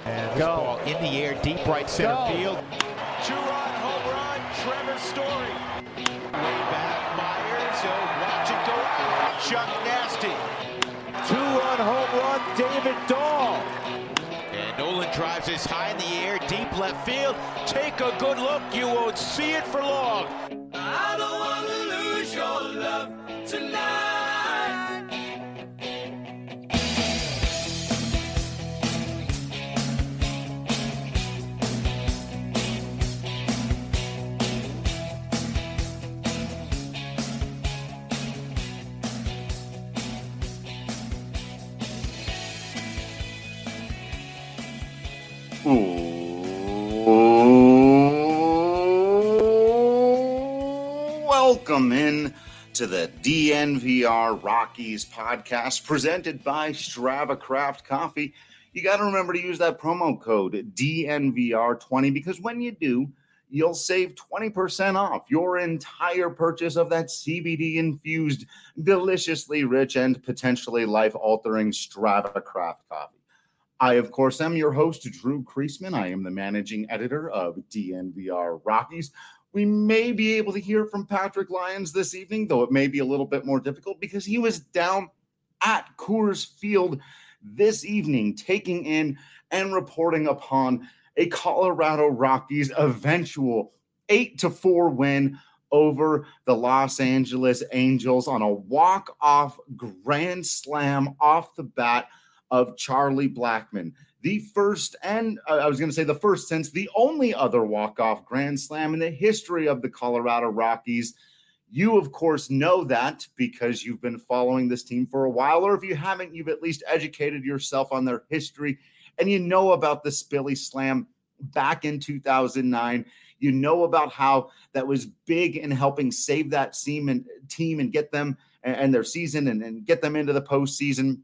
And this ball in the air, deep right center field. Two-run home run, Trevor Story. Way back, Myers. Watch it go out. Chuck Nasty. Two-run home run, David Dahl. And Nolan drives this high in the air, deep left field. Take a good look. You won't see it for long. I don't want to lose your love tonight. Welcome in to the DNVR Rockies podcast presented by Strava Craft Coffee. You got to remember to use that promo code DNVR20 because when you do, you'll save 20% off your entire purchase of that CBD-infused, deliciously rich, and potentially life-altering Strava Craft Coffee. I, of course, am your host, Drew Kreisman. I am the managing editor of DNVR Rockies. We may be able to hear from Patrick Lyons this evening, though it may be a little bit more difficult because he was down at Coors Field this evening, taking in and reporting upon a Colorado Rockies eventual 8-4 win over the Los Angeles Angels on a walk-off grand slam off the bat of Charlie Blackmon. The first, and I was going to say the first since the only other walk-off grand slam in the history of the Colorado Rockies. You, of course, know that because you've been following this team for a while, or if you haven't, you've at least educated yourself on their history, and you know about the Spilly Slam back in 2009. You know about how that was big in helping save that team and get them and their season and get them into the postseason.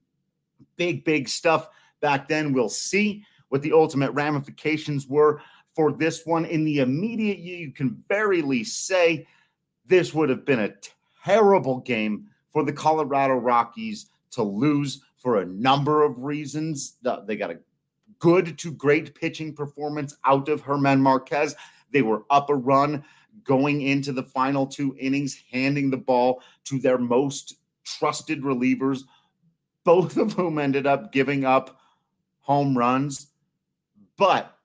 Big stuff back then. We'll see what the ultimate ramifications were for this one. In the immediate, you can very least say this would have been a terrible game for the Colorado Rockies to lose for a number of reasons. They got a good to great pitching performance out of Germán Márquez. They were up a run going into the final two innings, handing the ball to their most trusted relievers, both of whom ended up giving up home runs. But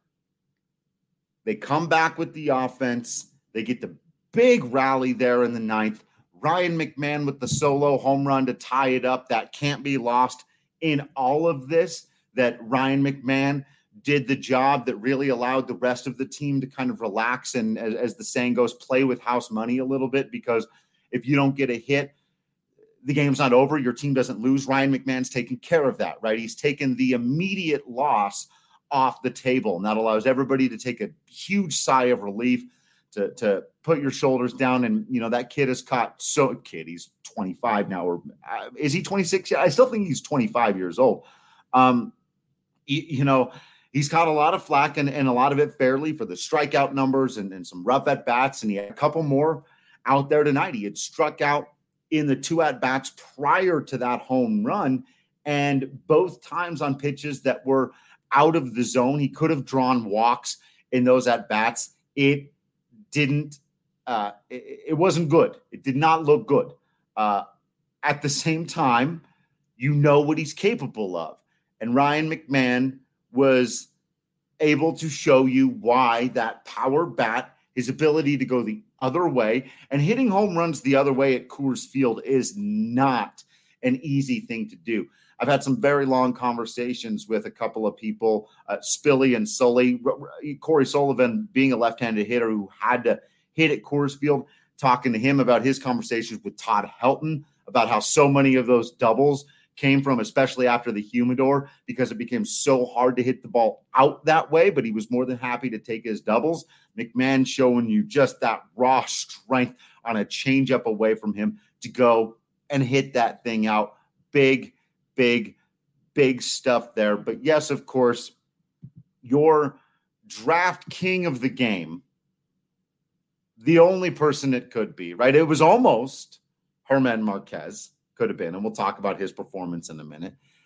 they come back with the offense. They get the big rally there in the ninth. Ryan McMahon with the solo home run to tie it up. That can't be lost in all of this, that Ryan McMahon did the job that really allowed the rest of the team to kind of relax and, as the saying goes, play with house money a little bit, because if you don't get a hit, the game's not over. Your team doesn't lose. Ryan McMahon's taking care of that, right? He's taken the immediate loss off the table, and that allows everybody to take a huge sigh of relief, to put your shoulders down. And, you know, that kid is caught. He's 25 now, or is he 26? I still think he's 25 years old. He's caught a lot of flack and a lot of it fairly for the strikeout numbers and some rough at bats. And he had a couple more out there tonight. He had struck out in the two at-bats prior to that home run, and both times on pitches that were out of the zone. He could have drawn walks in those at-bats. It didn't it wasn't good. It did not look good. At the same time, you know what he's capable of. And Ryan McMahon was able to show you why that power bat, his ability to go the other way, and hitting home runs the other way at Coors Field is not an easy thing to do. I've had some very long conversations with a couple of people, Spilly and Sully, Corey Sullivan being a left-handed hitter who had to hit at Coors Field, talking to him about his conversations with Todd Helton, about how so many of those doubles came from, especially after the humidor, because it became so hard to hit the ball out that way, but he was more than happy to take his doubles. McMahon showing you just that raw strength on a changeup away from him to go and hit that thing out. Big stuff there. But yes, of course, your draft king of the game, the only person it could be, right? It was almost Germán Márquez, could have been, and we'll talk about his performance in a minute.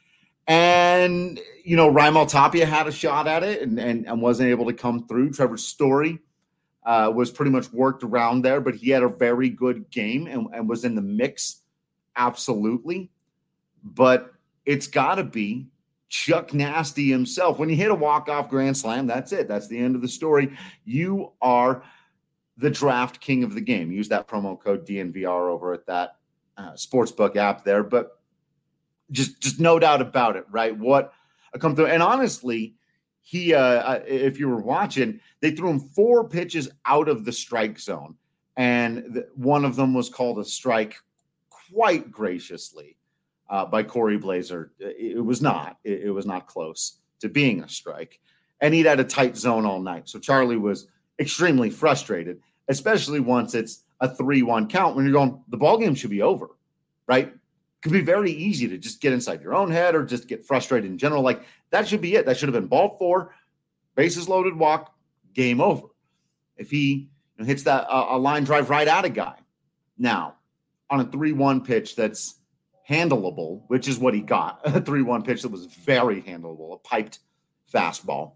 And, Raimel Tapia had a shot at it and wasn't able to come through. Trevor Story was pretty much worked around there, but he had a very good game and was in the mix, absolutely. But it's got to be Chuck Nasty himself. When you hit a walk-off grand slam, that's it. That's the end of the story. You are the draft king of the game. Use that promo code DNVR over at that sportsbook app there. But just no doubt about it, right? What a come through. And honestly, he, if you were watching, they threw him 4 pitches out of the strike zone. And one of them was called a strike quite graciously by Corey Blazer. It was not. It was not close to being a strike. And he'd had a tight zone all night. So Charlie was extremely frustrated, especially once it's a 3-1 count when you're going, the ball game should be over, right? It could be very easy to just get inside your own head or just get frustrated in general. Like, that should be it. That should have been ball 4, bases loaded, walk, game over. If he hits that a line drive right at a guy. Now, on a 3-1 pitch that's handleable, which is what he got, a 3-1 pitch that was very handleable, a piped fastball,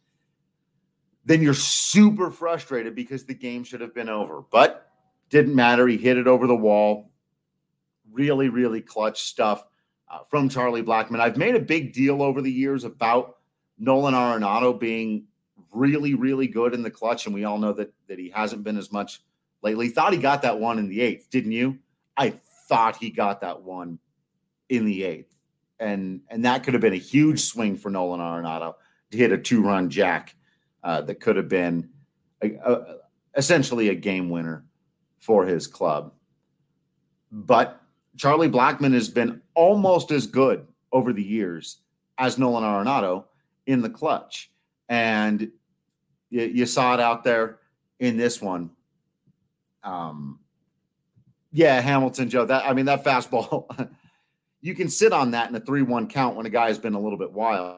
then you're super frustrated because the game should have been over. But didn't matter. He hit it over the wall. Really, really clutch stuff from Charlie Blackmon. I've made a big deal over the years about Nolan Arenado being really, really good in the clutch, and we all know that he hasn't been as much lately. Thought he got that one in the 8th, didn't you? I thought he got that one in the 8th. And that could have been a huge swing for Nolan Arenado to hit a 2-run jack that could have been essentially a game winner for his club. But Charlie Blackmon has been almost as good over the years as Nolan Arenado in the clutch. And you saw it out there in this one. Hamilton, Joe, that fastball, you can sit on that in a 3-1 count when a guy has been a little bit wild.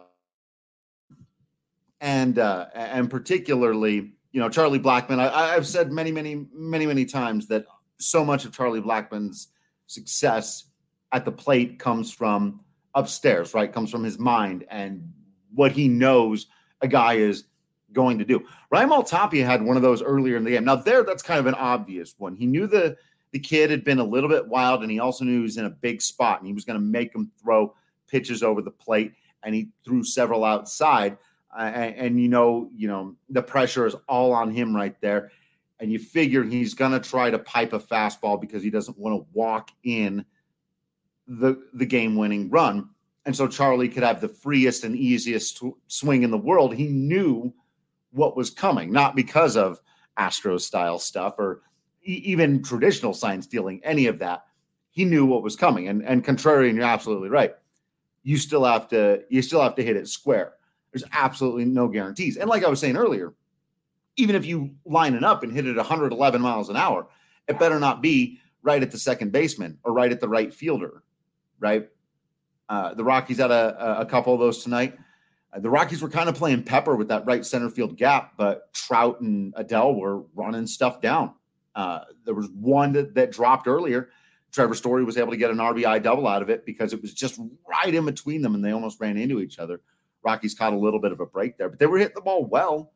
And particularly, Charlie Blackmon, I've said many times that so much of Charlie Blackmon's success at the plate comes from upstairs, right? Comes from his mind and what he knows a guy is going to do. Raimel Tapia had one of those earlier in the game. Now that's kind of an obvious one. He knew the kid had been a little bit wild, and he also knew he was in a big spot, and he was going to make him throw pitches over the plate, and he threw several outside. And the pressure is all on him right there. And you figure he's going to try to pipe a fastball because he doesn't want to walk in the game-winning run. And so Charlie could have the freest and easiest swing in the world. He knew what was coming, not because of Astros-style stuff or even traditional sign stealing, any of that. He knew what was coming. And contrarian, you're absolutely right. You still have to hit it square. There's absolutely no guarantees. And like I was saying earlier, even if you line it up and hit it 111 miles an hour, it better not be right at the second baseman or right at the right fielder, right? The Rockies had a couple of those tonight. The Rockies were kind of playing pepper with that right center field gap, but Trout and Adele were running stuff down. There was one that dropped earlier. Trevor Story was able to get an RBI double out of it because it was just right in between them, and they almost ran into each other. Rockies caught a little bit of a break there, but they were hitting the ball well.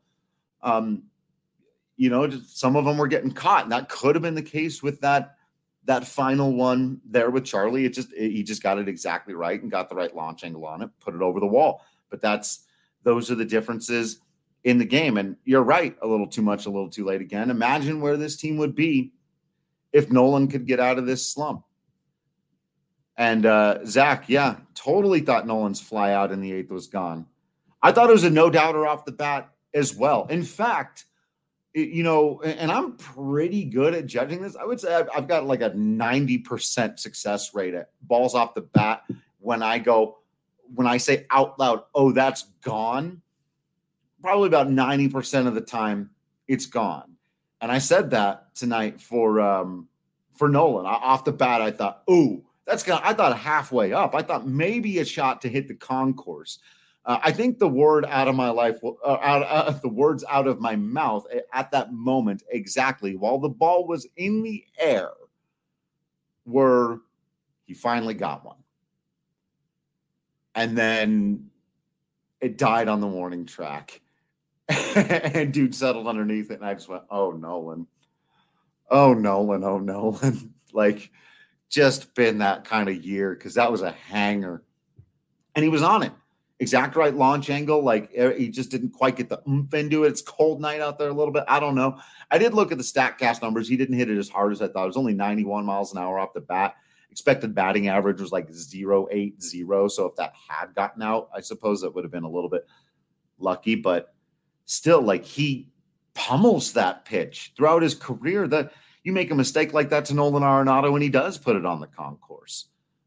Some of them were getting caught, and that could have been the case with that final one there with Charlie. He just got it exactly right and got the right launch angle on it, put it over the wall. But those are the differences in the game. And you're right, a little too much, a little too late again. Imagine where this team would be if Nolan could get out of this slump. And Zach, totally thought Nolan's fly out in the 8th was gone. I thought it was a no-doubter off the bat as well. In fact, and I'm pretty good at judging this. I would say I've got like a 90% success rate at balls off the bat when I say out loud, oh, that's gone. Probably about 90% of the time it's gone. And I said that tonight for Nolan. Off the bat, I thought, ooh, I thought halfway up. I thought maybe a shot to hit the concourse. I think the word out of my life, the words out of my mouth at that moment exactly, while the ball was in the air, were he finally got one. And then it died on the warning track. And dude settled underneath it. And I just went, oh, Nolan. Oh, Nolan. Oh, Nolan. Like, just been that kind of year because that was a hanger. And he was on it. Exact right launch angle. Like, he just didn't quite get the oomph into it. It's cold night out there a little bit. I don't know. I did look at the StatCast numbers. He didn't hit it as hard as I thought. It was only 91 miles an hour off the bat. Expected batting average was like 0.80. So if that had gotten out, I suppose that would have been a little bit lucky. But still, like, he pummels that pitch throughout his career. That you make a mistake like that to Nolan Arenado, and he does put it on the concourse.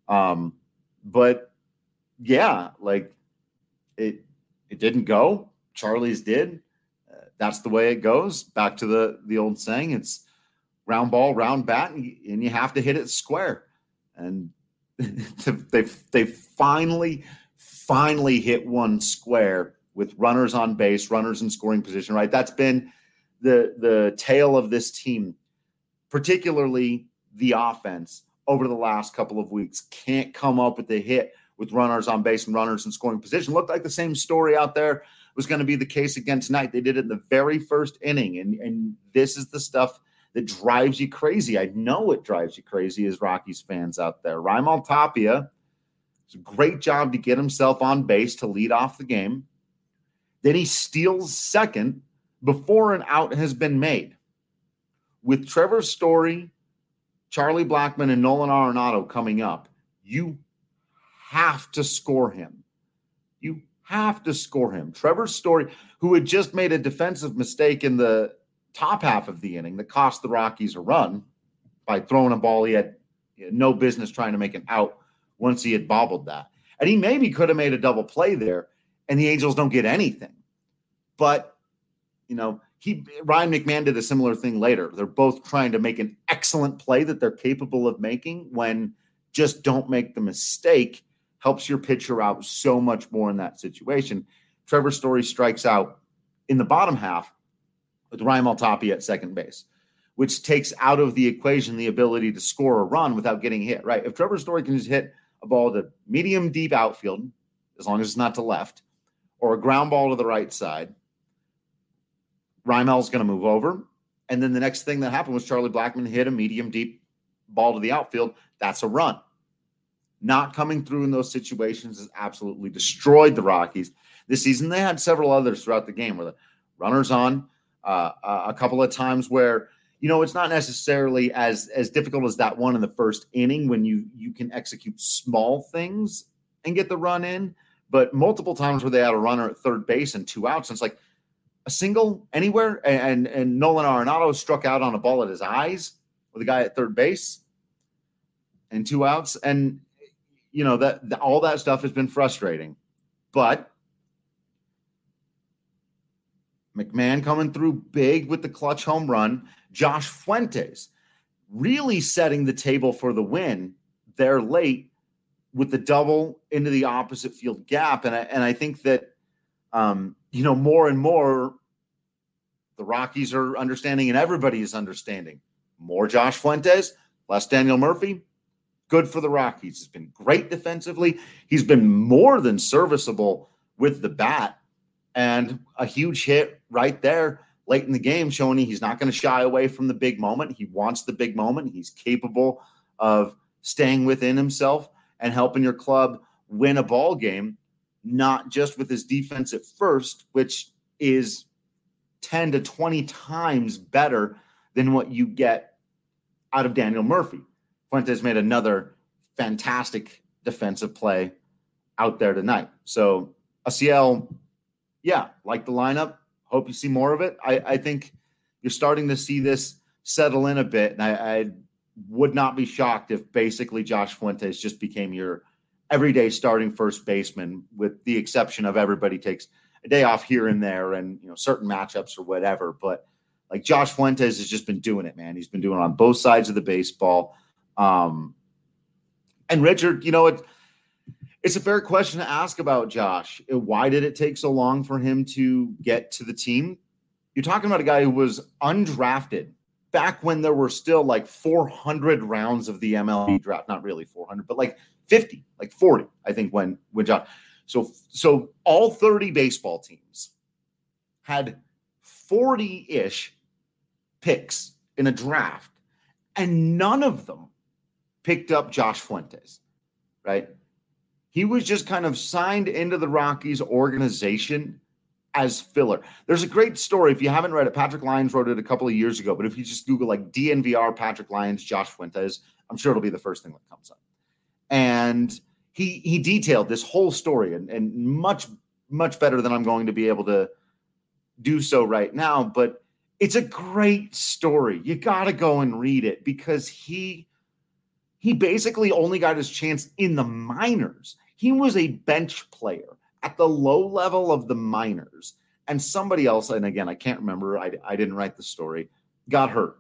But yeah, like it didn't go. Charlie's did. That's the way it goes. Back to the old saying, it's round ball, round bat, and you have to hit it square. And they finally hit one square with runners on base, runners in scoring position, right? That's been the tale of this team, particularly the offense over the last couple of weeks. Can't come up with a hit with runners on base and runners in scoring position. Looked like the same story out there was going to be the case again tonight. They did it in the very first inning, and this is the stuff that drives you crazy. I know it drives you crazy as Rockies fans out there. Raimel Tapia does a great job to get himself on base to lead off the game. Then he steals second before an out has been made. With Trevor Story, Charlie Blackmon, and Nolan Arenado coming up, you have to score him. You have to score him. Trevor Story, who had just made a defensive mistake in the top half of the inning that cost the Rockies a run by throwing a ball he had no business trying to make an out once he had bobbled that. And he maybe could have made a double play there, and the Angels don't get anything. But, you know, Ryan McMahon did a similar thing later. They're both trying to make an excellent play that they're capable of making when just don't make the mistake helps your pitcher out so much more in that situation. Trevor Story strikes out in the bottom half with Raimel Tapia at second base, which takes out of the equation the ability to score a run without getting hit, right? If Trevor Story can just hit a ball to medium deep outfield, as long as it's not to left, or a ground ball to the right side, Raimel's going to move over. And then the next thing that happened was Charlie Blackmon hit a medium deep ball to the outfield. That's a run. Not coming through in those situations has absolutely destroyed the Rockies this season. They had several others throughout the game where the runners on, a couple of times where, you know, it's not necessarily as difficult as that one in the first inning when you can execute small things and get the run in, but multiple times where they had a runner at third base and 2 outs. And it's like a single anywhere. And Nolan Arenado struck out on a ball at his eyes with a guy at third base and 2 outs. And, you know, that all that stuff has been frustrating, but McMahon coming through big with the clutch home run. Josh Fuentes really setting the table for the win there late with the double into the opposite field gap. And I think that, you know, more and more the Rockies are understanding and everybody is understanding. More Josh Fuentes, less Daniel Murphy. Good for the Rockies. He's been great defensively. He's been more than serviceable with the bat. And a huge hit right there late in the game showing he's not going to shy away from the big moment. He wants the big moment. He's capable of staying within himself and helping your club win a ball game, not just with his defense at first, which is 10 to 20 times better than what you get out of Daniel Murphy. Fuentes made another fantastic defensive play out there tonight. So Asiel, yeah, like the lineup. Hope you see more of it. I think you're starting to see this settle in a bit, and I would not be shocked if basically Josh Fuentes just became your everyday starting first baseman, with the exception of everybody takes a day off here and there and, you know, certain matchups or whatever. But like Josh Fuentes has just been doing it, man. He's been doing it on both sides of the baseball. And Richard, you know, it's a fair question to ask about Josh. Why did it take so long for him to get to the team? You're talking about a guy who was undrafted back when there were still like 400 rounds of the MLB draft. Not really 400, but like 50, like 40, I think, when Josh. So all 30 baseball teams had 40-ish picks in a draft, and none of them picked up Josh Fuentes, right? He was just kind of signed into the Rockies organization as filler. There's a great story. If you haven't read it, Patrick Lyons wrote it a couple of years ago, but if you just Google like DNVR, Patrick Lyons, Josh Fuentes, I'm sure it'll be the first thing that comes up. And he detailed this whole story and much, much better than I'm going to be able to do so right now. But it's a great story. You got to go and read it because he basically only got his chance in the minors. He was a bench player at the low level of the minors. And somebody else, and again, I can't remember, I didn't write the story, got hurt.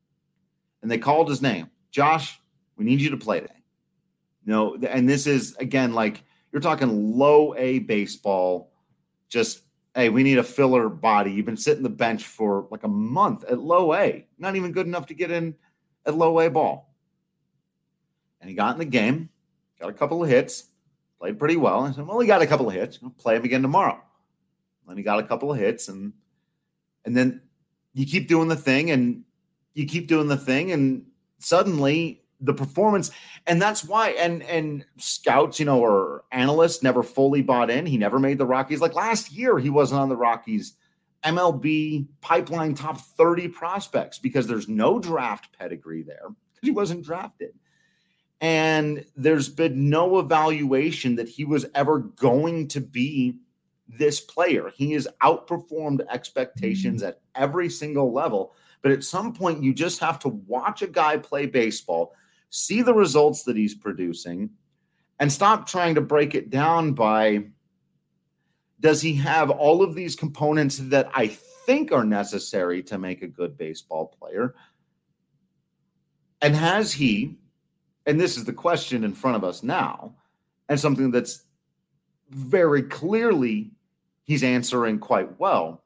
And they called his name. Josh, we need you to play today. No, and this is, again, like you're talking low A baseball, just, hey, we need a filler body. You've been sitting the bench for like a month at low A, not even good enough to get in at low A ball. And he got in the game, got a couple of hits, played pretty well. I said, well, he got a couple of hits. I'll play him again tomorrow. And he got a couple of hits, and then you keep doing the thing, and you keep doing the thing, and suddenly the performance, and that's why, and scouts, or analysts never fully bought in. He never made the Rockies. Like last year, he wasn't on the Rockies MLB pipeline top 30 prospects because there's no draft pedigree there because he wasn't drafted. And there's been no evaluation that he was ever going to be this player. He has outperformed expectations at every single level. But at some point, you just have to watch a guy play baseball, see the results that he's producing, and stop trying to break it down by, does he have all of these components that I think are necessary to make a good baseball player? And has he, and this is the question in front of us now, and something that's very clearly he's answering quite well.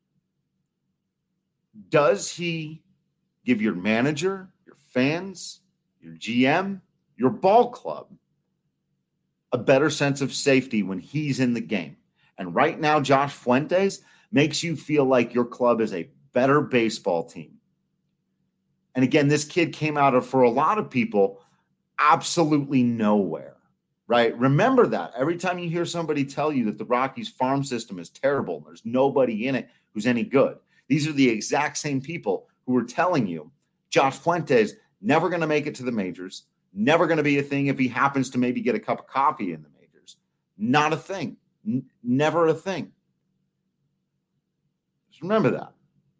Does he give your manager, your fans, your GM, your ball club a better sense of safety when he's in the game? And right now, Josh Fuentes makes you feel like your club is a better baseball team. And again, this kid came out of, for a lot of people, absolutely nowhere, right? Remember that. Every time you hear somebody tell you that the Rockies farm system is terrible, and there's nobody in it who's any good, these are the exact same people who were telling you Josh Fuentes never going to make it to the majors, never going to be a thing if he happens to maybe get a cup of coffee in the majors. Not a thing. Never a thing. Just remember that.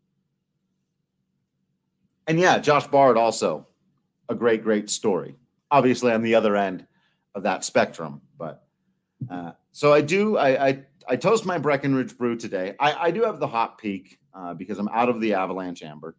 And yeah, Josh Bard also a great, great story. Obviously on the other end of that spectrum. But so I toast my Breckenridge Brew today. I do have the Hot Peak because I'm out of the Avalanche Amber.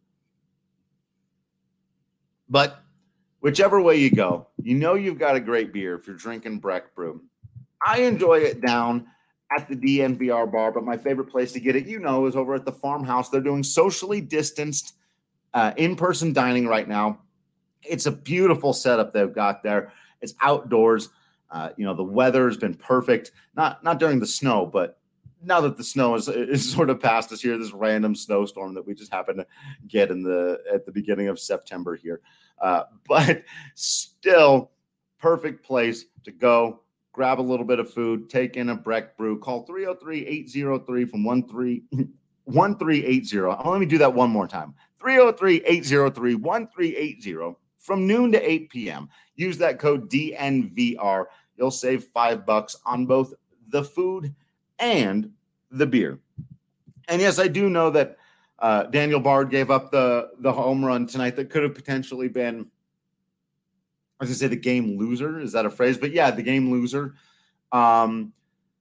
But whichever way you go, you've got a great beer if you're drinking Breck Brew. I enjoy it down at the DNVR bar, but my favorite place to get it, is over at the Farmhouse. They're doing socially distanced in-person dining right now. It's a beautiful setup they've got there. It's outdoors. The weather has been perfect. Not during the snow, but now that the snow is sort of past us here, this random snowstorm that we just happened to get at the beginning of September here. But still, perfect place to go. Grab a little bit of food, take in a Breck Brew. Call 303-803 from 1380. Let me do that one more time. 303-803-1380 from noon to 8 p.m. Use that code DNVR. You'll save $5 on both the food and the beer. And yes, I do know that Daniel Bard gave up the home run tonight that could have potentially been, I was going to say the game loser. Is that a phrase? But yeah, the game loser. And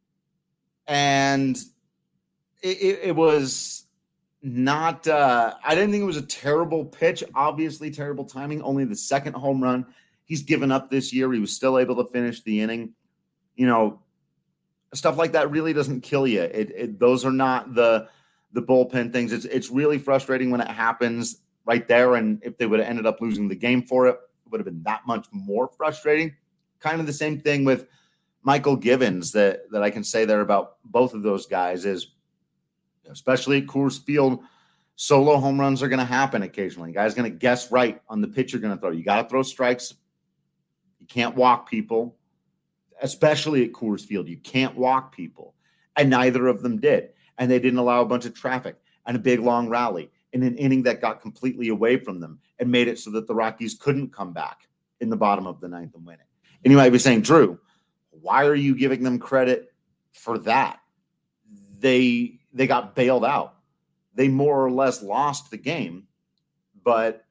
it was not, I didn't think it was a terrible pitch. Obviously terrible timing. Only the second home run he's given up this year. He was still able to finish the inning. Stuff like that really doesn't kill you. Those are not the bullpen things. It's really frustrating when it happens right there. And if they would have ended up losing the game for it, it would have been that much more frustrating. kind of the same thing with Michael Givens that I can say there about both of those guys is, especially at Coors Field, solo home runs are going to happen occasionally. Guy's going to guess right on the pitch you're going to throw. You got to throw strikes. You can't walk people, especially at Coors Field. You can't walk people. And neither of them did. And they didn't allow a bunch of traffic and a big long rally in an inning that got completely away from them and made it so that the Rockies couldn't come back in the bottom of the ninth and win it. And you might be saying, Drew, why are you giving them credit for that? They got bailed out. They more or less lost the game, but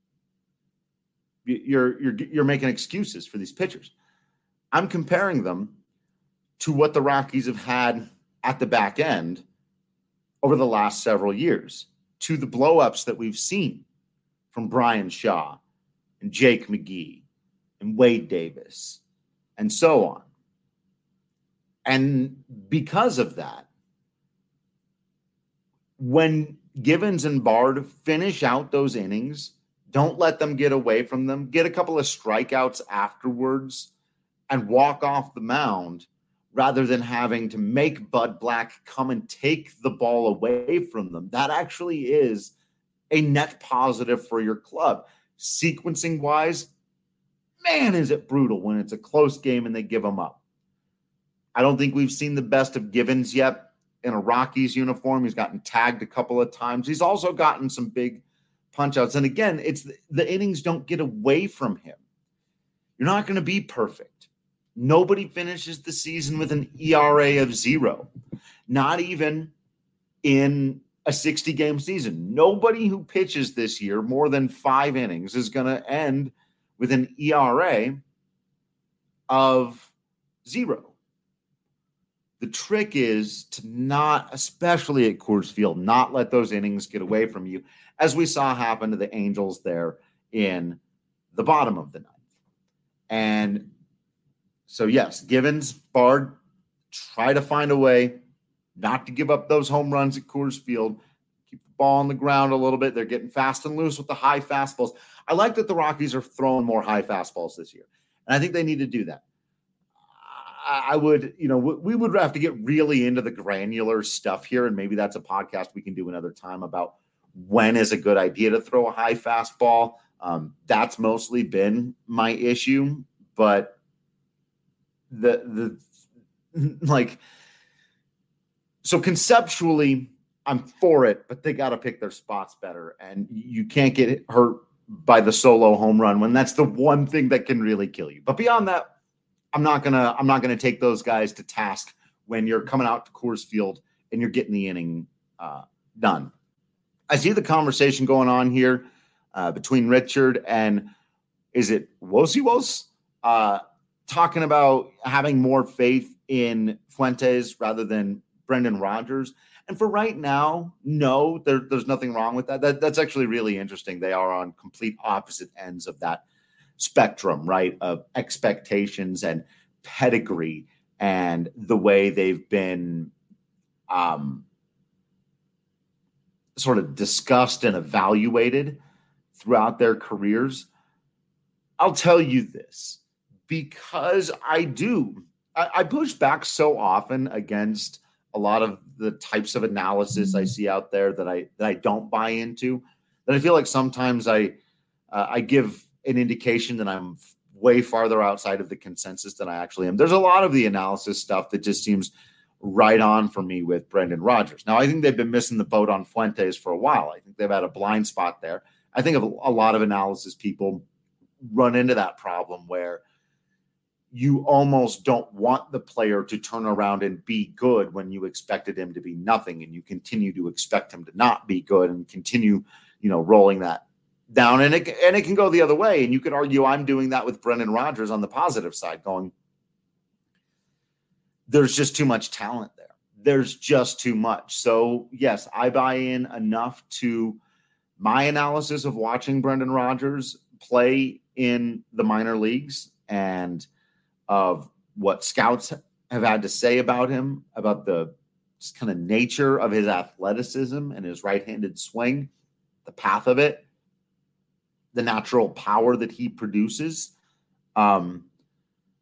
you're making excuses for these pitchers. I'm comparing them to what the Rockies have had at the back end over the last several years, to the blow-ups that we've seen from Brian Shaw and Jake McGee and Wade Davis and so on. And because of that, when Givens and Bard finish out those innings, don't let them get away from them, get a couple of strikeouts afterwards, and walk off the mound rather than having to make Bud Black come and take the ball away from them. That actually is a net positive for your club. Sequencing-wise, man, is it brutal when it's a close game and they give them up. I don't think we've seen the best of Givens yet in a Rockies uniform. He's gotten tagged a couple of times. He's also gotten some big punch-outs. And again, it's the innings don't get away from him. You're not going to be perfect. Nobody finishes the season with an ERA of 0, not even in a 60-game season. Nobody who pitches this year more than 5 innings is going to end with an ERA of 0. The trick is to not, especially at Coors Field, not let those innings get away from you, as we saw happen to the Angels there in the bottom of the ninth. And so, yes, Givens, Bard, try to find a way not to give up those home runs at Coors Field. Keep the ball on the ground a little bit. They're getting fast and loose with the high fastballs. I like that the Rockies are throwing more high fastballs this year, and I think they need to do that. I would, we would have to get really into the granular stuff here, and maybe that's a podcast we can do another time about when is a good idea to throw a high fastball. That's mostly been my issue, but so conceptually, I'm for it, but they got to pick their spots better, and you can't get hurt by the solo home run when that's the one thing that can really kill you. But beyond that, I'm not gonna take those guys to task when you're coming out to Coors Field and you're getting the inning done. I see the conversation going on here between Richard and is it Wosiwos talking about having more faith in Fuentes rather than Brendan Rodgers. And for right now, no, there's nothing wrong with that. That's actually really interesting. They are on complete opposite ends of that spectrum, right, of expectations and pedigree and the way they've been sort of discussed and evaluated throughout their careers. I'll tell you this, because I push back so often against a lot of the types of analysis I see out there that I don't buy into, that I feel like sometimes I give an indication that I'm way farther outside of the consensus than I actually am. There's a lot of the analysis stuff that just seems right on for me with Brendan Rodgers. Now, I think they've been missing the boat on Fuentes for a while. I think they've had a blind spot there. I think a lot of analysis people run into that problem where you almost don't want the player to turn around and be good when you expected him to be nothing, and you continue to expect him to not be good and continue, rolling that down. And it can go the other way. And you could argue I'm doing that with Brendan Rodgers on the positive side, going, there's just too much talent there. There's just too much. So yes, I buy in enough to my analysis of watching Brendan Rodgers play in the minor leagues and of what scouts have had to say about him, about the just kind of nature of his athleticism and his right-handed swing, the path of it, the natural power that he produces.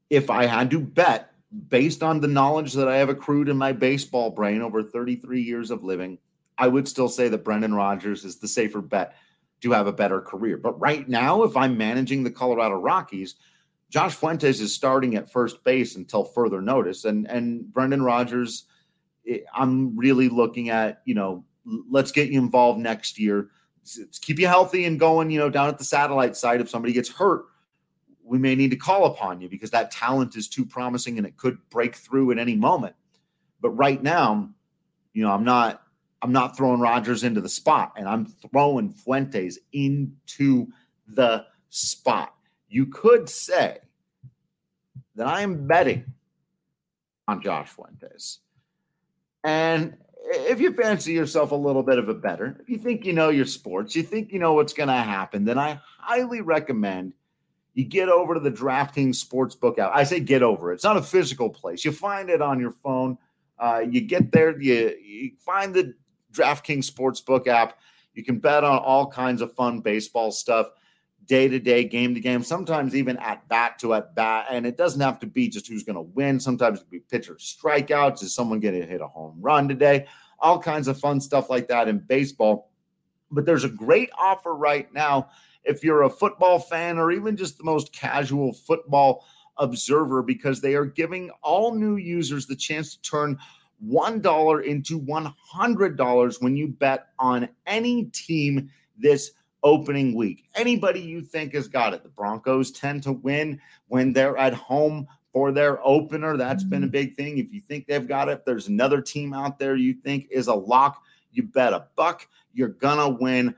if I had to bet based on the knowledge that I have accrued in my baseball brain over 33 years of living, I would still say that Brendan Rodgers is the safer bet to have a better career. But right now, if I'm managing the Colorado Rockies, Josh Fuentes is starting at first base until further notice. And Brendan Rodgers, I'm really looking at, let's get you involved next year. Let's keep you healthy and going, down at the satellite site. If somebody gets hurt, we may need to call upon you because that talent is too promising and it could break through at any moment. But right now, I'm not throwing Rodgers into the spot, and I'm throwing Fuentes into the spot. You could say that I am betting on Josh Fuentes. And if you fancy yourself a little bit of a bettor, if you think you know your sports, you think you know what's going to happen, then I highly recommend you get over to the DraftKings Sportsbook app. I say get over. It's not a physical place. You find it on your phone. You get there. You find the DraftKings Sportsbook app. You can bet on all kinds of fun baseball stuff, day-to-day, game-to-game, sometimes even at-bat to at-bat. And it doesn't have to be just who's going to win. Sometimes it can be pitcher strikeouts. Is someone going to hit a home run today? All kinds of fun stuff like that in baseball. But there's a great offer right now if you're a football fan or even just the most casual football observer, because they are giving all new users the chance to turn $1 into $100 when you bet on any team this opening week. Anybody you think has got it. The Broncos tend to win when they're at home for their opener. That's been a big thing. If you think they've got it, if there's another team out there you think is a lock, you bet $1, you're gonna win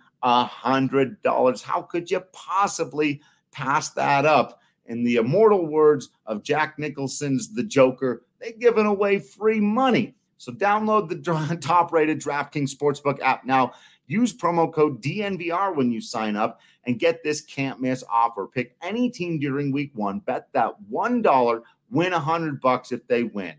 $100. How could you possibly pass that up? In the immortal words of Jack Nicholson's The Joker, they're giving away free money. So download the top-rated DraftKings Sportsbook app now. Use promo code DNVR when you sign up and get this can't-miss offer. Pick any team during week one. Bet that $1, win $100 if they win.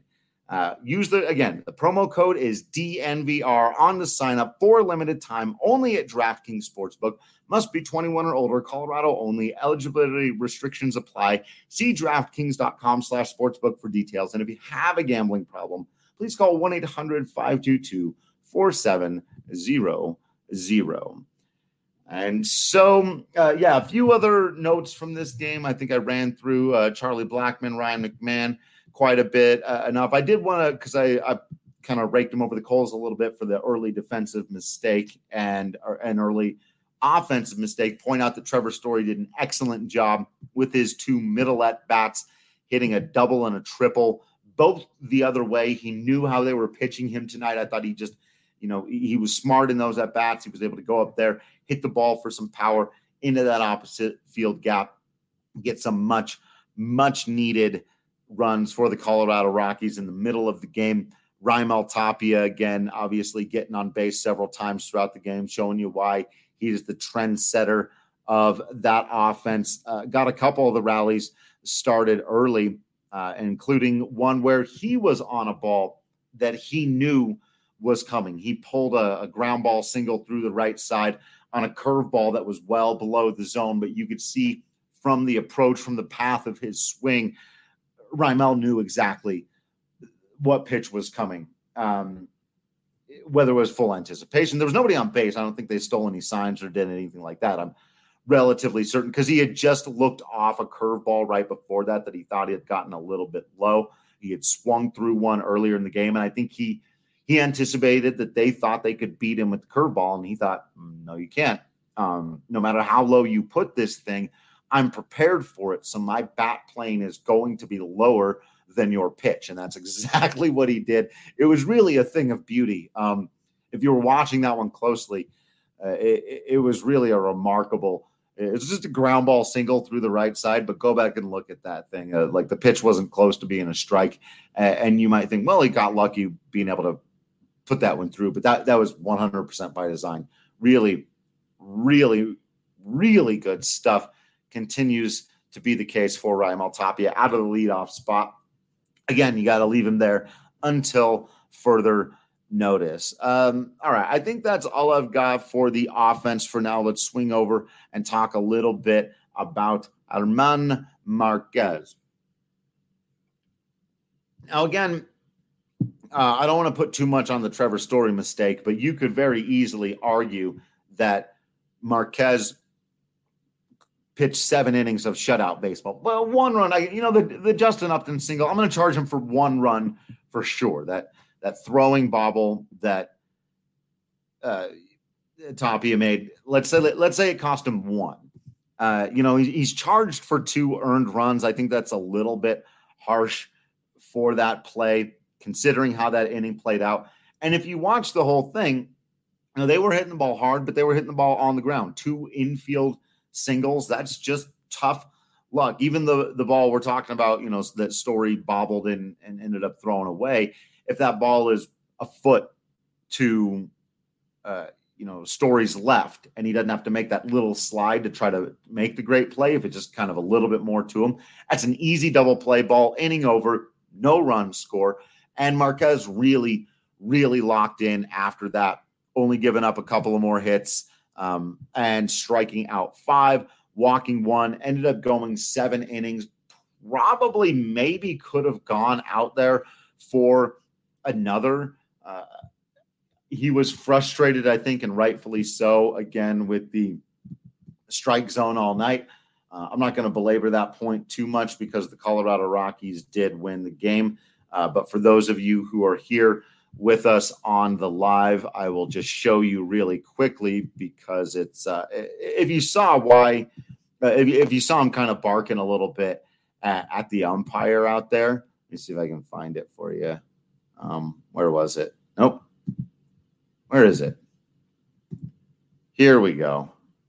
The promo code is DNVR on the sign up for a limited time only at DraftKings Sportsbook. Must be 21 or older, Colorado only. Eligibility restrictions apply. See DraftKings.com/sportsbook for details. And if you have a gambling problem, please call 1-800-522-4700. And so, a few other notes from this game. I think I ran through Charlie Blackmon, Ryan McMahon quite a bit enough. I did want to, because I kind of raked him over the coals a little bit for the early defensive mistake and an early offensive mistake, point out that Trevor Story did an excellent job with his two middle at-bats, hitting a double and a triple, both the other way. He knew how they were pitching him tonight. I thought he just, he was smart in those at-bats. He was able to go up there, hit the ball for some power into that opposite field gap, get some much, much needed runs for the Colorado Rockies in the middle of the game. Raimel Tapia, again, obviously getting on base several times throughout the game, showing you why he is the trendsetter of that offense. Got a couple of the rallies started early, including one where he was on a ball that he knew was coming. He pulled a ground ball single through the right side on a curveball that was well below the zone, but you could see from the approach, from the path of his swing, Raimel knew exactly what pitch was coming, whether it was full anticipation. There was nobody on base. I don't think they stole any signs or did anything like that. I'm relatively certain because he had just looked off a curveball right before that he thought he had gotten a little bit low. He had swung through one earlier in the game, and I think he anticipated that they thought they could beat him with the curveball, and he thought, no, you can't. No matter how low you put this thing, I'm prepared for it, so my bat plane is going to be lower than your pitch, and that's exactly what he did. It was really a thing of beauty. If you were watching that one closely, it was really a remarkable – it was just a ground ball single through the right side, but go back and look at that thing. Like the pitch wasn't close to being a strike, and you might think, well, he got lucky being able to put that one through, but that was 100% by design. Really, really, really good stuff. Continues to be the case for Raimel Tapia out of the leadoff spot. Again, you got to leave him there until further notice. All right, I think that's all I've got for the offense for now. Let's swing over and talk a little bit about German Marquez. Now, again, I don't want to put too much on the Trevor Story mistake, but you could very easily argue that Marquez pitched 7 innings of shutout baseball. Well, 1 run, the Justin Upton single, I'm going to charge him for 1 run for sure. That throwing bobble that Tapia made, let's say it cost him 1. He's charged for 2 earned runs. I think that's a little bit harsh for that play, considering how that inning played out. And if you watch the whole thing, they were hitting the ball hard, but they were hitting the ball on the ground. 2 infield singles. That's just tough luck. Even the ball we're talking about, that Story bobbled in and ended up throwing away. If that ball is a foot to, Story's left, and he doesn't have to make that little slide to try to make the great play, if it's just kind of a little bit more to him, that's an easy double play ball, inning over, no run score. And Marquez really, really locked in after that, only giving up a couple of more hits and striking out 5, walking 1, ended up going 7 innings, probably maybe could have gone out there for another. He was frustrated, I think, and rightfully so, again, with the strike zone all night. I'm not going to belabor that point too much because the Colorado Rockies did win the game. But for those of you who are here with us on the live, I will just show you really quickly because it's if you saw if you saw him kind of barking a little bit at the umpire out there. Let me see if I can find it for you. Where was it? Nope. Where is it? Here we go.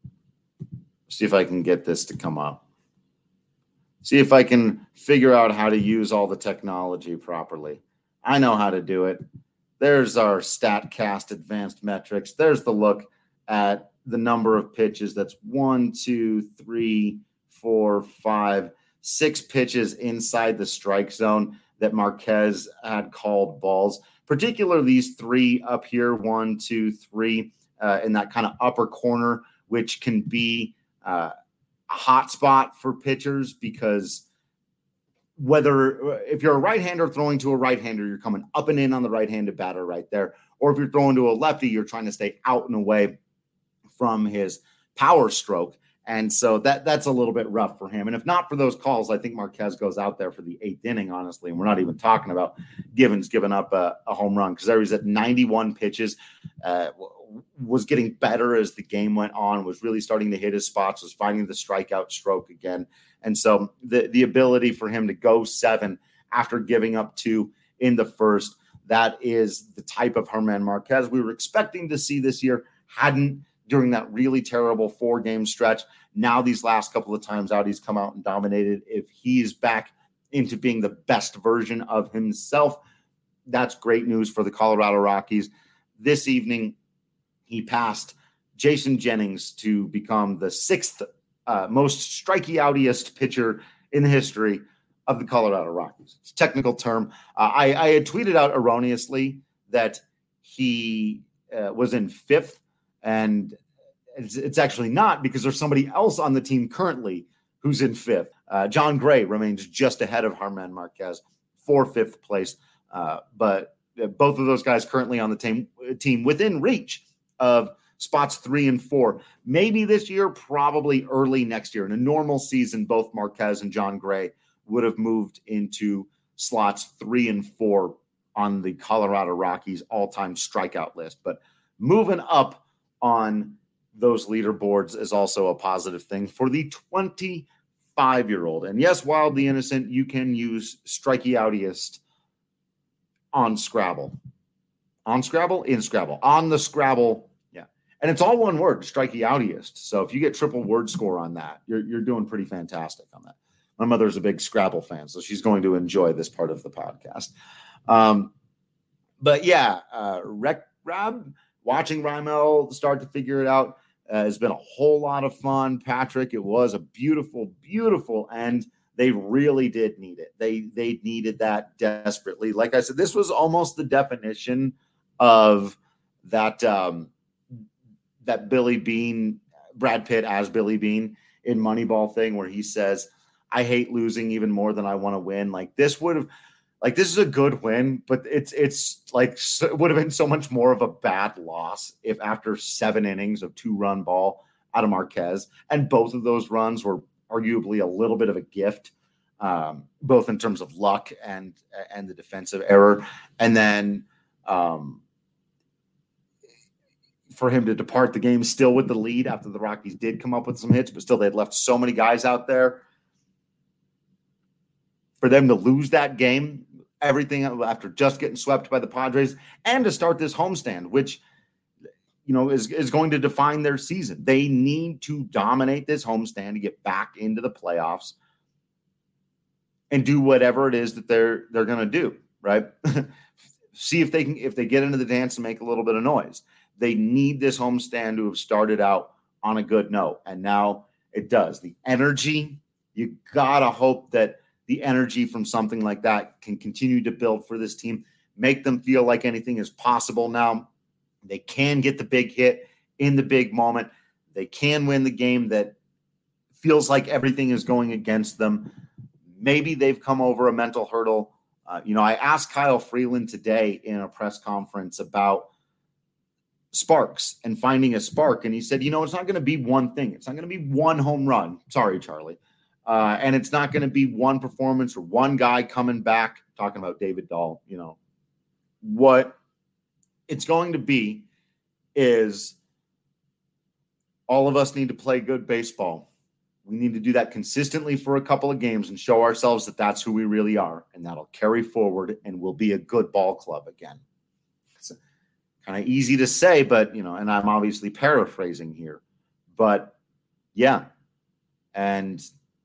See if I can get this to come up. See if I can figure out how to use all the technology properly. I know how to do it. There's our StatCast advanced metrics. There's the look at the number of pitches. That's 1, 2, 3, 4, 5, 6 pitches inside the strike zone that Marquez had called balls. Particularly these 3 up here, 1, 2, 3, in that kind of upper corner, which can be a hot spot for pitchers because if you're a right-hander throwing to a right-hander, you're coming up and in on the right-handed batter right there. Or if you're throwing to a lefty, you're trying to stay out and away from his power stroke. And so that's a little bit rough for him. And if not for those calls, I think Marquez goes out there for the 8th inning, honestly. And we're not even talking about Givens giving up a home run because there was at 91 pitches, was getting better as the game went on, was really starting to hit his spots, was finding the strikeout stroke again. And so the ability for him to go 7 after giving up 2 in the first, that is the type of German Marquez we were expecting to see this year, hadn't during that really terrible 4-game stretch. Now these last couple of times out, he's come out and dominated. If he's back into being the best version of himself, that's great news for the Colorado Rockies. This evening, he passed Jason Jennings to become the 6th most strikeoutiest pitcher in the history of the Colorado Rockies. It's a technical term. I had tweeted out erroneously that he was in 5th, and it's actually not because there's somebody else on the team currently who's in 5th. John Gray remains just ahead of German Marquez for 5th place. But both of those guys currently on the team within reach of spots 3 and 4. Maybe this year, probably early next year. In a normal season, both Marquez and John Gray would have moved into slots 3 and 4 on the Colorado Rockies all-time strikeout list. But moving up on those leaderboards is also a positive thing for the 25-year-old. And yes, Wild the Innocent, you can use strikeoutiest on Scrabble. On Scrabble? In Scrabble. On the Scrabble. Yeah. And it's all one word, strikeoutiest. So if you get triple word score on that, you're doing pretty fantastic on that. My mother's a big Scrabble fan, so she's going to enjoy this part of the podcast. But yeah, watching Raimel start to figure it out has been a whole lot of fun. Patrick, it was a beautiful, beautiful end. They really did need it. They needed that desperately. Like I said, this was almost the definition of that that Billy Beane, Brad Pitt as Billy Beane in Moneyball thing, where he says, "I hate losing even more than I want to win." Like this would have, Like, this is a good win, but it's like it would have been so much more of a bad loss if after 7 innings of 2-run ball out of Marquez, and both of those runs were arguably a little bit of a gift, both in terms of luck and the defensive error. And then for him to depart the game still with the lead after the Rockies did come up with some hits, but still they'd left so many guys out there. For them to lose that game, everything after just getting swept by the Padres, and to start this homestand, which is going to define their season. They need to dominate this homestand to get back into the playoffs and do whatever it is that they're going to do, right? See if they get into the dance and make a little bit of noise. They need this homestand to have started out on a good note, and now it does. The energy, you gotta hope that the energy from something like that can continue to build for this team, make them feel like anything is possible now. They can get the big hit in the big moment. They can win the game that feels like everything is going against them. Maybe they've come over a mental hurdle. I asked Kyle Freeland today in a press conference about sparks and finding a spark. And he said, it's not going to be one thing. It's not going to be one home run. Sorry, Charlie. And it's not going to be one performance or one guy coming back, talking about David Dahl. What it's going to be is all of us need to play good baseball. We need to do that consistently for a couple of games and show ourselves that that's who we really are. And that'll carry forward and we'll be a good ball club again. It's kind of easy to say, but, and I'm obviously paraphrasing here, but yeah. And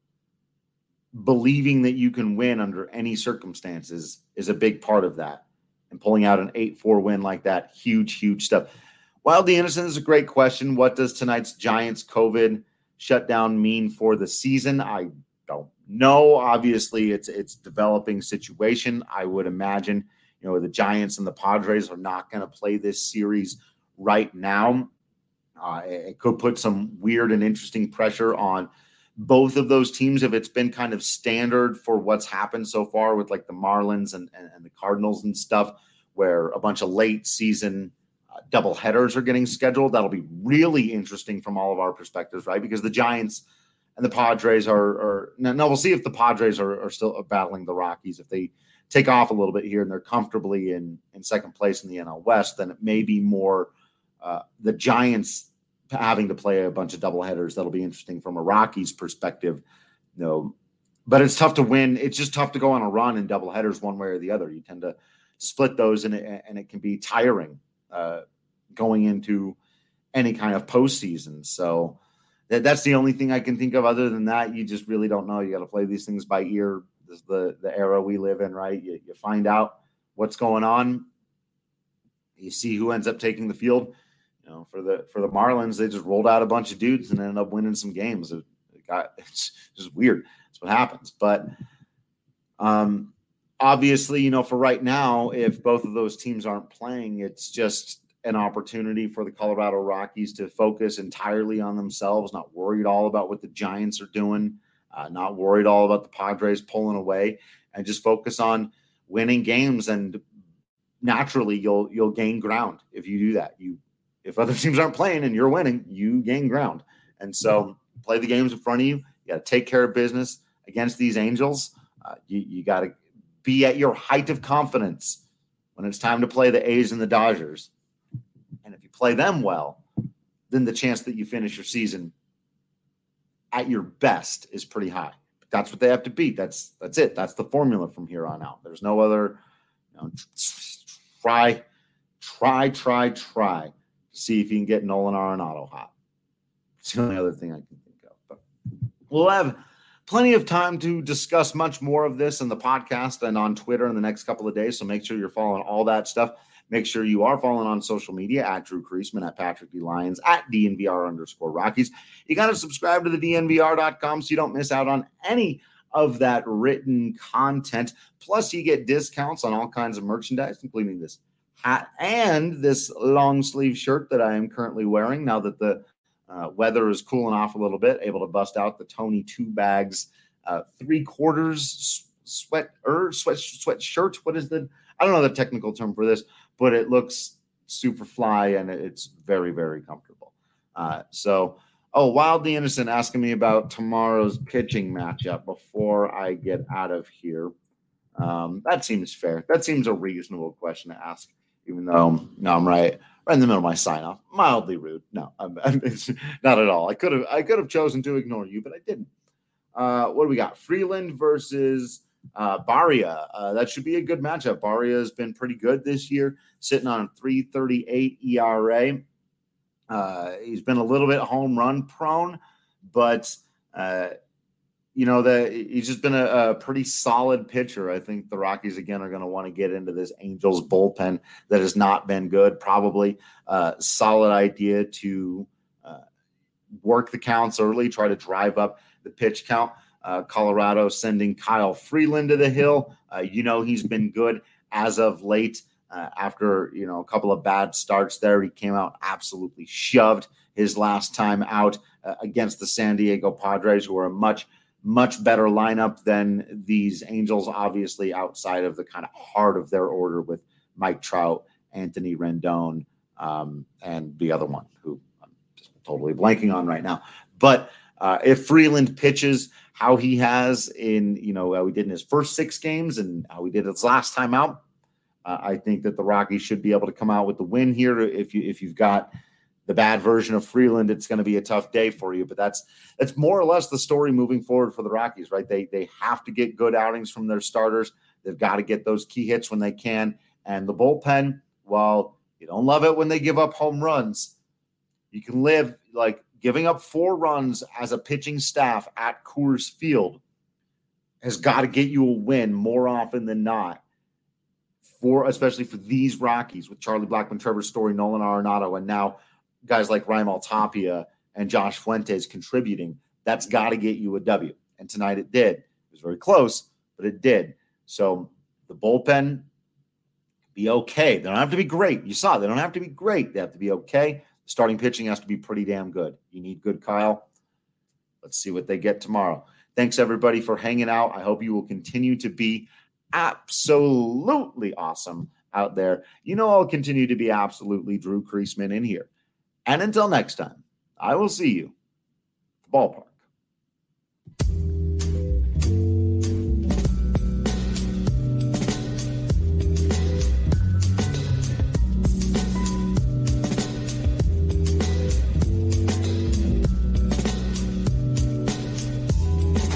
believing that you can win under any circumstances is a big part of that. And pulling out an 8-4 win like that, huge, huge stuff. Wild the Innocent is a great question. What does tonight's Giants COVID shutdown mean for the season? I don't know. Obviously, it's developing situation. I would imagine, the Giants and the Padres are not going to play this series right now. It could put some weird and interesting pressure on both of those teams if it's been kind of standard for what's happened so far with like the Marlins and the Cardinals and stuff, where a bunch of late season double headers are getting scheduled. That'll be really interesting from all of our perspectives, right? Because the Giants and the Padres are now we'll see if the Padres are still battling the Rockies. If they take off a little bit here and they're comfortably in second place in the NL West, then it may be more the Giants having to play a bunch of doubleheaders. That'll be interesting from a Rockies perspective. But it's tough to win. It's just tough to go on a run in doubleheaders one way or the other. You tend to split those, and it can be tiring going into any kind of postseason. So that's the only thing I can think of. Other than that, you just really don't know. You got to play these things by ear. This is the era we live in, right? You find out what's going on. You see who ends up taking the field. For the Marlins, they just rolled out a bunch of dudes and ended up winning some games. It's just weird. That's what happens. But obviously, for right now, if both of those teams aren't playing, it's just an opportunity for the Colorado Rockies to focus entirely on themselves, not worried all about what the Giants are doing, not worried all about the Padres pulling away, and just focus on winning games. And naturally, you'll gain ground if you do that. If other teams aren't playing and you're winning, you gain ground. And so play the games in front of you. You got to take care of business against these Angels. You got to be at your height of confidence when it's time to play the A's and the Dodgers. And if you play them well, then the chance that you finish your season at your best is pretty high. But that's what they have to beat. That's it. That's the formula from here on out. There's no other, try. See if you can get Nolan Arenado hot. It's the only other thing I can think of. But we'll have plenty of time to discuss much more of this in the podcast and on Twitter in the next couple of days. So make sure you're following all that stuff. Make sure you are following on social media at Drew Creasman, at Patrick D. Lyons, at DNVR_Rockies. You got to subscribe to the DNVR.com so you don't miss out on any of that written content. Plus, you get discounts on all kinds of merchandise, including this hat and this long sleeve shirt that I am currently wearing now that the weather is cooling off a little bit. Able to bust out the Tony 2 bags 3/4 sweatshirt. What is I don't know the technical term for this, but it looks super fly and it's very, very comfortable. Wildly Innocent asking me about tomorrow's pitching matchup before I get out of here. That seems fair. That seems a reasonable question to ask, even though, no, I'm right in the middle of my sign-off. Mildly rude. No, it's not at all. I could have chosen to ignore you, but I didn't. What do we got? Freeland versus Barria. That should be a good matchup. Barria has been pretty good this year, sitting on a 3.38 ERA. He's been a little bit home run prone, but he's just been a pretty solid pitcher. I think the Rockies again are going to want to get into this Angels bullpen that has not been good. Probably solid idea to work the counts early, try to drive up the pitch count. Colorado sending Kyle Freeland to the hill. He's been good as of late. After a couple of bad starts there, he came out absolutely shoved his last time out against the San Diego Padres, who are a much better lineup than these Angels, obviously outside of the kind of heart of their order with Mike Trout, Anthony Rendon, and the other one who I'm just totally blanking on right now. But if Freeland pitches how he has in, how he did in his first 6 games and how he did his last time out, I think that the Rockies should be able to come out with the win here. If you've got the bad version of Freeland, it's going to be a tough day for you. But that's more or less the story moving forward for the Rockies, right? They have to get good outings from their starters. They've got to get those key hits when they can. And the bullpen, while you don't love it when they give up home runs, you can live like giving up 4 runs as a pitching staff at Coors Field has got to get you a win more often than not. Especially for these Rockies with Charlie Blackmon, Trevor Story, Nolan Arenado, and now guys like Raimel Tapia and Josh Fuentes contributing. That's got to get you a W. And tonight it did. It was very close, but it did. So the bullpen be okay. They don't have to be great. You saw they don't have to be great. They have to be okay. The starting pitching has to be pretty damn good. You need good Kyle. Let's see what they get tomorrow. Thanks, everybody, for hanging out. I hope you will continue to be absolutely awesome out there. I'll continue to be absolutely Drew Creasman in here. And until next time, I will see you at the ballpark.